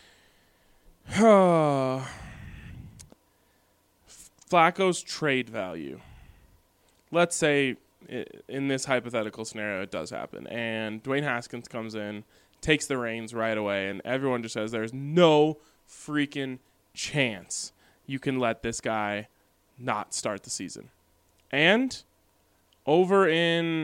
S4: Flacco's trade value. Let's say in this hypothetical scenario it does happen, and Dwayne Haskins comes in, takes the reins right away, and everyone just says there's no freaking chance you can let this guy not start the season. And over in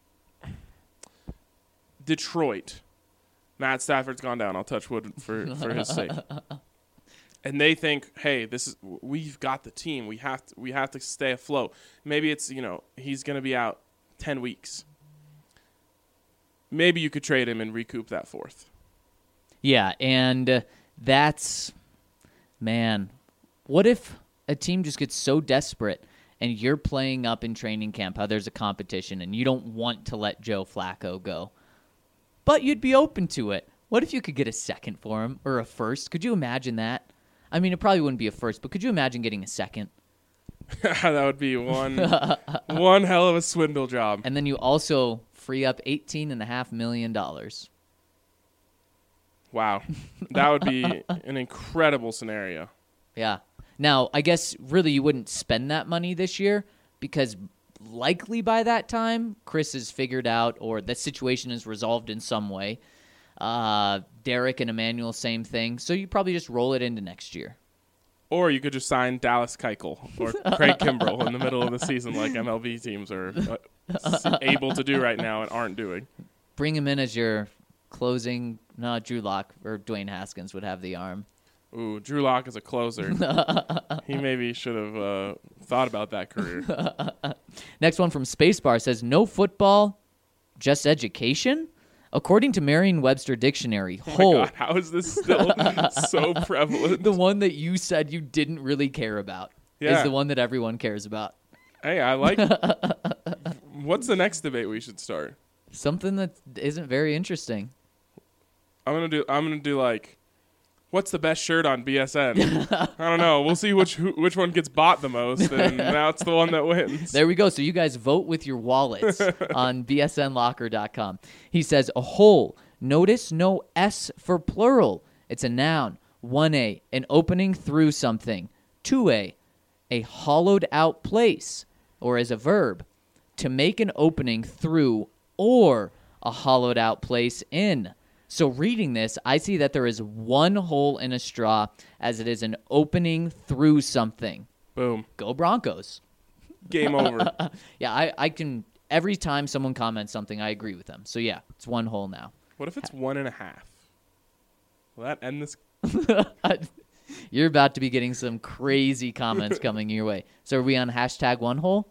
S4: Detroit, Matt Stafford's gone down. I'll touch wood for his sake. And they think, hey, we've got the team. We have to stay afloat. Maybe it's, he's going to be out 10 weeks. Maybe you could trade him and recoup that fourth.
S5: Yeah, and that's, man, what if a team just gets so desperate and you're playing up in training camp how there's a competition and you don't want to let Joe Flacco go, but you'd be open to it? What if you could get a second for him or a first? Could you imagine that? I mean, it probably wouldn't be a first, but could you imagine getting a second?
S4: That would be one hell of a swindle job.
S5: And then you also free up $18.5 million.
S4: Wow. That would be an incredible scenario.
S5: Yeah. Now, I guess really you wouldn't spend that money this year because likely by that time, Chris has figured out or the situation is resolved in some way. Derek and Emmanuel, same thing. So you probably just roll it into next year.
S4: Or you could just sign Dallas Keuchel or Craig Kimbrell in the middle of the season like MLB teams are able to do right now and aren't doing.
S5: Bring him in as your closing. No, Drew Lock or Dwayne Haskins would have the arm.
S4: Ooh, Drew Lock is a closer. He maybe should have thought about that career.
S5: Next one from Spacebar says, no football, just education? According to Merriam-Webster Dictionary,
S4: Oh
S5: whole,
S4: my God, how is this still so prevalent?
S5: the one that you said you didn't really care about,
S4: Yeah.
S5: is the one that everyone cares about.
S4: Hey, I like. What's the next debate we should start?
S5: Something that isn't very interesting.
S4: I'm gonna do like, what's the best shirt on BSN? I don't know. We'll see which one gets bought the most, and now it's the one that wins.
S5: There we go. So you guys vote with your wallets on bsnlocker.com. He says, a hole. Notice no S for plural. It's a noun. 1A, an opening through something. 2A, a hollowed out place. Or as a verb, to make an opening through or a hollowed out place in. So reading this, I see that there is one hole in a straw as it is an opening through something.
S4: Boom.
S5: Go Broncos.
S4: Game over.
S5: Yeah, I can, every time someone comments something, I agree with them. So yeah, it's one hole now.
S4: What if it's 1.5? Will that end this?
S5: You're about to be getting some crazy comments coming your way. So are we on hashtag one hole?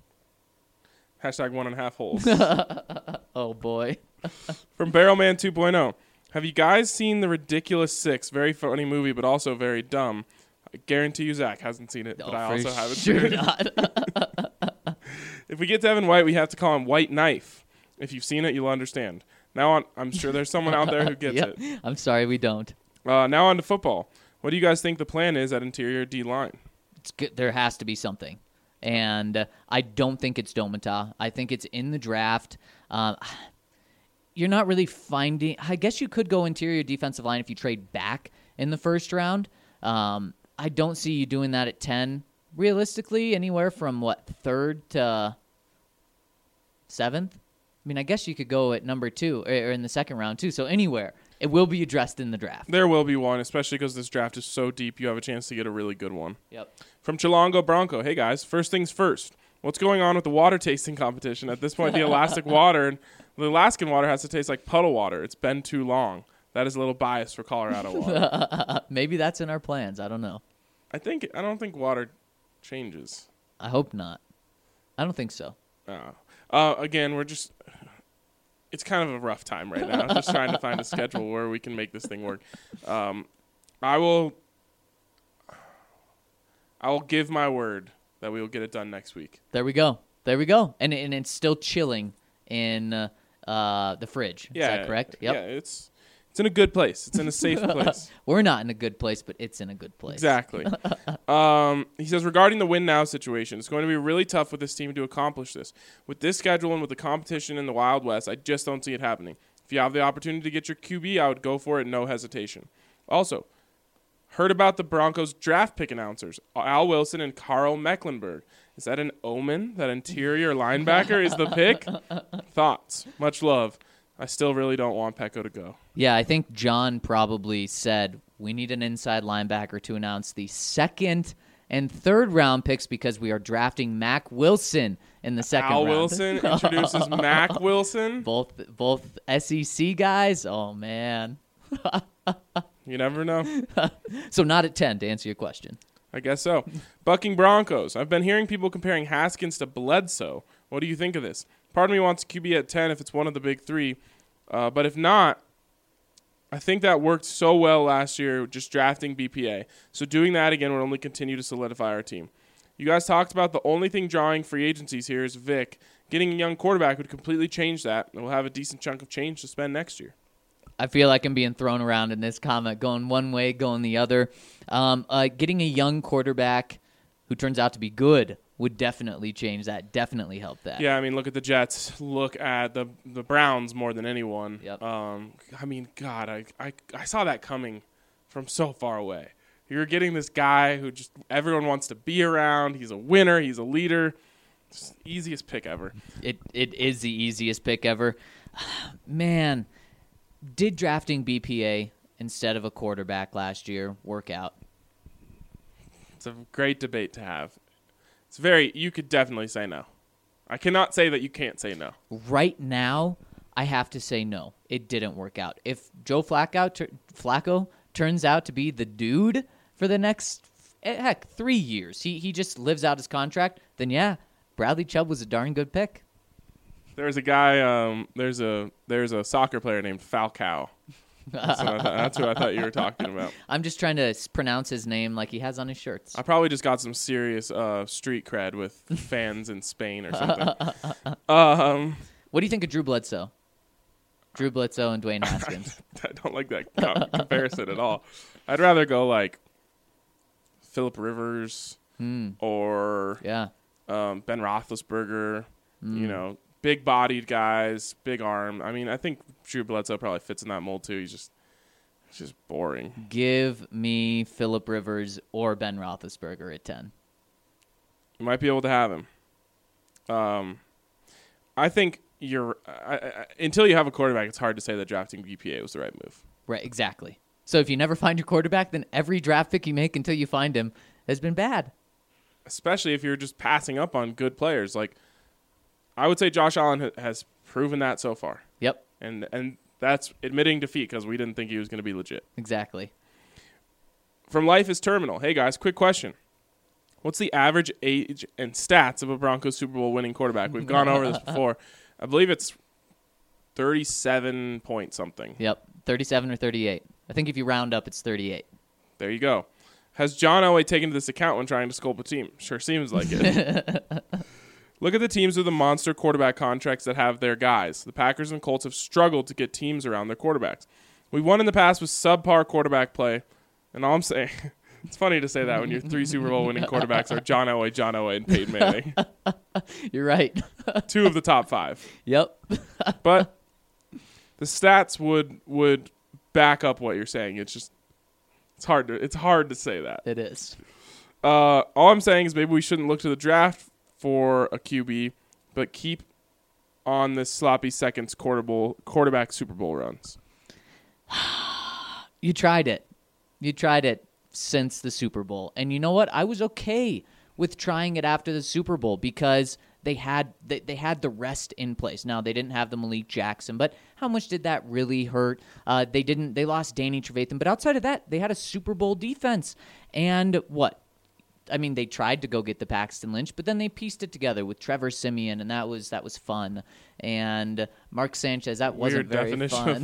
S4: Hashtag 1.5 holes.
S5: Oh boy.
S4: From Barrelman 2.0. Have you guys seen The Ridiculous Six? Very funny movie, but also very dumb. I guarantee you Zach hasn't seen it, but I also haven't seen it.
S5: Not.
S4: If we get to Evan White, we have to call him White Knife. If you've seen it, you'll understand. Now on, I'm sure there's someone out there who gets
S5: Yep.
S4: it.
S5: I'm sorry, we don't.
S4: Now on to football. What do you guys think the plan is at interior D-line?
S5: It's good. There has to be something. And I don't think it's Domata. I think it's in the draft. You're not really finding... I guess you could go interior defensive line if you trade back in the first round. I don't see you doing that at 10. Realistically, anywhere from, 3rd to 7th? I mean, I guess you could go at number 2 or in the second round, too. So anywhere. It will be addressed in the draft.
S4: There will be one, especially because this draft is so deep, you have a chance to get a really good one.
S5: Yep.
S4: From Chilongo Bronco, hey guys, first things first. What's going on with the water tasting competition? At this point, the Alaskan water has to taste like puddle water. It's been too long. That is a little biased for Colorado water.
S5: Maybe that's in our plans. I don't know.
S4: I don't think water changes.
S5: I hope not. I don't think so.
S4: Again, it's kind of a rough time right now. Just trying to find a schedule where we can make this thing work. I will give my word that we will get it done next week.
S5: There we go. And it's still chilling in the fridge. Is that correct? Yep.
S4: Yeah, it's in a good place. It's in a safe place.
S5: We're not in a good place, but it's in a good place.
S4: Exactly. He says, regarding the win now situation, it's going to be really tough with this team to accomplish this. With this schedule and with the competition in the Wild West, I just don't see it happening. If you have the opportunity to get your QB, I would go for it, no hesitation. Also, heard about the Broncos draft pick announcers, Al Wilson and Carl Mecklenburg. Is that an omen that interior linebacker is the pick? Thoughts? Much love. I still really don't want Pecco to go.
S5: Yeah, I think John probably said we need an inside linebacker to announce the 2nd and 3rd round picks because we are drafting Mac Wilson in the 2nd round.
S4: Al Wilson introduces Mac Wilson.
S5: Both SEC guys. Oh man.
S4: You never know.
S5: So not at 10 to answer your question.
S4: I guess so. Bucking Broncos. I've been hearing people comparing Haskins to Bledsoe. What do you think of this? Part of me wants QB at 10 if it's one of the big three. But if not, I think that worked so well last year just drafting BPA. So doing that again would only continue to solidify our team. You guys talked about the only thing drawing free agencies here is Vic. Getting a young quarterback would completely change that, and we'll have a decent chunk of change to spend next year.
S5: I feel like I'm being thrown around in this comment, going one way, going the other. Getting a young quarterback who turns out to be good would definitely change that, definitely help that.
S4: Yeah, I mean, look at the Jets. Look at the Browns more than anyone.
S5: Yep.
S4: I mean, God, I saw that coming from so far away. You're getting this guy who just everyone wants to be around. He's a winner. He's a leader. It's the easiest pick ever.
S5: It is the easiest pick ever. Man, did drafting BPA instead of a quarterback last year work out?
S4: It's a great debate to have. You could definitely say no. I cannot say that you can't say no.
S5: Right now, I have to say no. It didn't work out. If Joe Flacco turns out to be the dude for the next, 3 years, he just lives out his contract, then yeah, Bradley Chubb was a darn good pick.
S4: There's a guy, there's a soccer player named Falcao. That's who I thought you were talking about.
S5: I'm just trying to pronounce his name like he has on his shirts.
S4: I probably just got some serious street cred with fans in Spain or something.
S5: What do you think of Drew Bledsoe? Drew Bledsoe and Dwayne Haskins.
S4: I don't like that comparison at all. I'd rather go like Phillip Rivers or
S5: Yeah.
S4: Ben Roethlisberger, big-bodied guys, big arm. I mean, I think Drew Bledsoe probably fits in that mold too. He's just boring.
S5: Give me Phillip Rivers or Ben Roethlisberger at 10.
S4: You might be able to have him. I think until you have a quarterback, it's hard to say that drafting BPA was the right move.
S5: Right, exactly. So if you never find your quarterback, then every draft pick you make until you find him has been bad.
S4: Especially if you're just passing up on good players. Like, I would say Josh Allen has proven that so far.
S5: Yep.
S4: And that's admitting defeat because we didn't think he was going to be legit.
S5: Exactly.
S4: From Life is Terminal. Hey, guys, quick question. What's the average age and stats of a Broncos Super Bowl winning quarterback? We've gone over this before. I believe it's 37 point something.
S5: Yep, 37 or 38. I think if you round up, it's 38.
S4: There you go. Has John Elway taken this account when trying to sculpt a team? Sure seems like it. Look at the teams with the monster quarterback contracts that have their guys. The Packers and Colts have struggled to get teams around their quarterbacks. We've won in the past with subpar quarterback play, and all I'm saying... It's funny to say that when your 3 Super Bowl winning quarterbacks are John Elway, and Peyton Manning.
S5: You're right.
S4: 2 of the top 5.
S5: Yep.
S4: But the stats would back up what you're saying. It's hard to say that.
S5: It is.
S4: All I'm saying is maybe we shouldn't look to the draft for a QB, but keep on this sloppy seconds quarterback Super Bowl runs.
S5: You tried it. Since the Super Bowl. And you know what? I was okay with trying it after the Super Bowl because they had the rest in place. Now, they didn't have the Malik Jackson, but how much did that really hurt? They lost Danny Trevathan, but outside of that, they had a Super Bowl defense. And what? I mean, they tried to go get the Paxton Lynch, but then they pieced it together with Trevor Siemian, and that was fun. And Mark Sanchez, that wasn't very fun.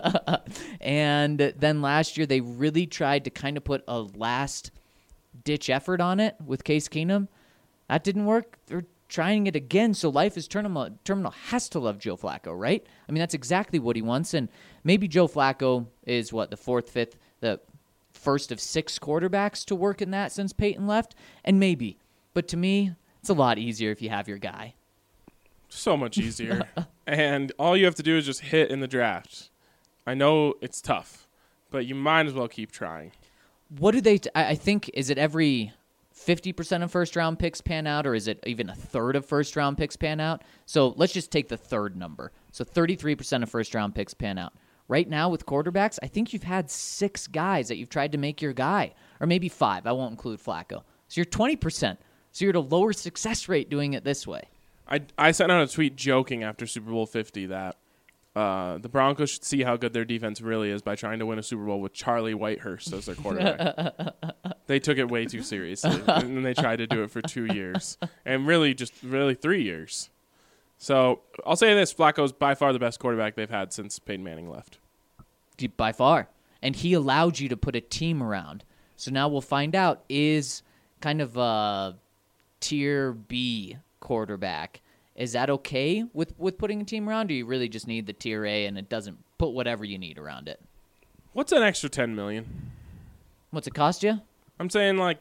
S5: And then last year, they really tried to kind of put a last-ditch effort on it with Case Keenum. That didn't work. They're trying it again, so Life is Terminal has to love Joe Flacco, right? I mean, that's exactly what he wants, and maybe Joe Flacco is, the fourth, fifth, the first of 6 quarterbacks to work in that since Peyton left, and maybe. But to me, it's a lot easier if you have your guy.
S4: So much easier. And all you have to do is just hit in the draft. I know it's tough, but you might as well keep trying.
S5: What do they I think, is it every 50% of first-round picks pan out, or is it even a third of first-round picks pan out? So let's just take the third number. So 33% of first-round picks pan out. Right now with quarterbacks, I think you've had 6 guys that you've tried to make your guy, or maybe 5. I won't include Flacco. So you're 20%. So you're at a lower success rate doing it this way.
S4: I sent out a tweet joking after Super Bowl 50 that the Broncos should see how good their defense really is by trying to win a Super Bowl with Charlie Whitehurst as their quarterback. They took it way too seriously, and then they tried to do it for 2 years, and really 3 years. So I'll say this, Flacco's by far the best quarterback they've had since Peyton Manning left.
S5: By far. And he allowed you to put a team around. So now we'll find out, is kind of a tier B quarterback, is that okay with putting a team around, or do you really just need the tier A and it doesn't put whatever you need around it?
S4: What's an extra $10 million?
S5: What's it cost you?
S4: I'm saying like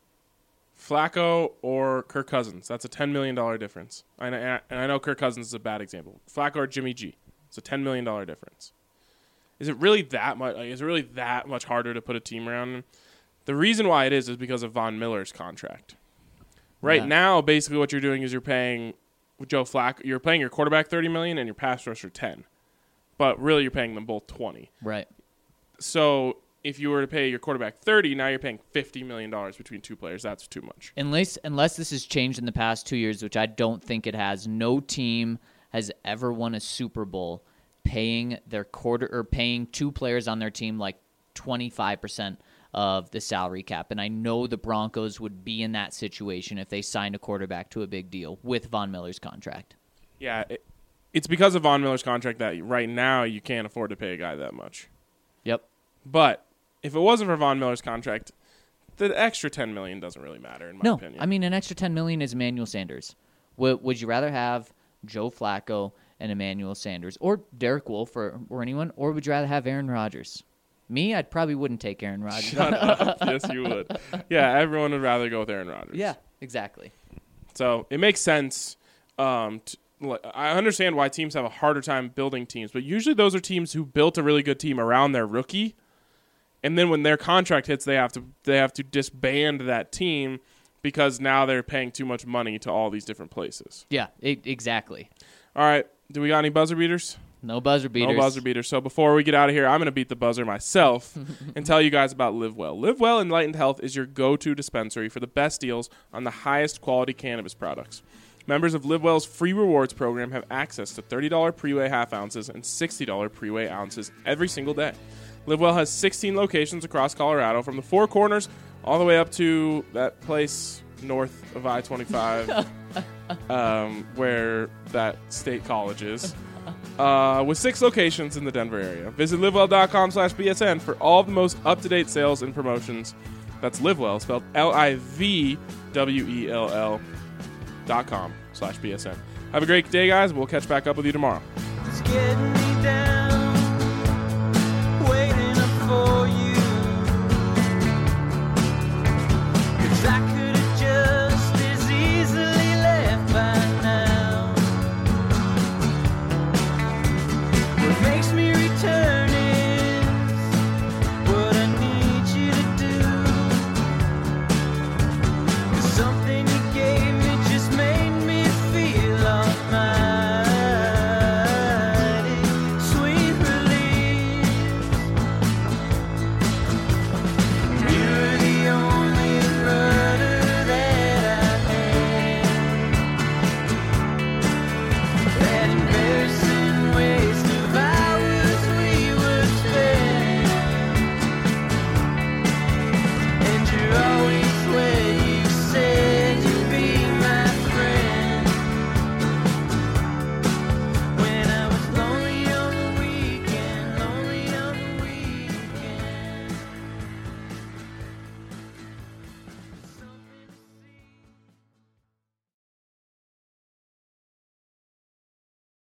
S4: Flacco or Kirk Cousins. That's a $10 million difference. And I know Kirk Cousins is a bad example. Flacco or Jimmy G. It's a $10 million difference. Is it really that much? Is it really that much harder to put a team around him? The reason why it is because of Von Miller's contract. Right now, basically what you're doing is you're paying Joe Flacco. You're paying your quarterback $30 million and your pass rusher $10 million. But really, you're paying them both $20 million.
S5: Right.
S4: So if you were to pay your quarterback $30, now you're paying $50 million between two players. That's too much.
S5: Unless this has changed in the past 2 years, which I don't think it has. No team has ever won a Super Bowl paying paying two players on their team like 25% of the salary cap. And I know the Broncos would be in that situation if they signed a quarterback to a big deal with Von Miller's contract.
S4: Yeah, it's because of Von Miller's contract that right now you can't afford to pay a guy that much.
S5: Yep.
S4: But if it wasn't for Von Miller's contract, the extra $10 million doesn't really matter, in my opinion.
S5: I mean, an extra $10 million is Emmanuel Sanders. Would you rather have Joe Flacco and Emmanuel Sanders, or Derek Wolfe, or anyone, or would you rather have Aaron Rodgers? Me, I probably wouldn't take Aaron Rodgers.
S4: Shut up. Yes, you would. Yeah, everyone would rather go with Aaron Rodgers.
S5: Yeah, exactly.
S4: So it makes sense. I understand why teams have a harder time building teams, but usually those are teams who built a really good team around their rookie, and then when their contract hits, they have to disband that team because now they're paying too much money to all these different places.
S5: Yeah, exactly.
S4: All right, do we got any buzzer beaters?
S5: No buzzer beaters.
S4: No buzzer beaters. So before we get out of here, I'm going to beat the buzzer myself and tell you guys about LiveWell. LiveWell Enlightened Health is your go-to dispensary for the best deals on the highest quality cannabis products. Members of LiveWell's free rewards program have access to $30 pre-weigh half ounces and $60 pre-weigh ounces every single day. LiveWell has 16 locations across Colorado, from the Four Corners all the way up to that place north of I-25 where that state college is, with 6 locations in the Denver area. Visit livewell.com/BSN for all of the most up-to-date sales and promotions. That's LiveWell, spelled LIVWELL.com/BSN. Have a great day, guys. We'll catch back up with you tomorrow.
S3: It's getting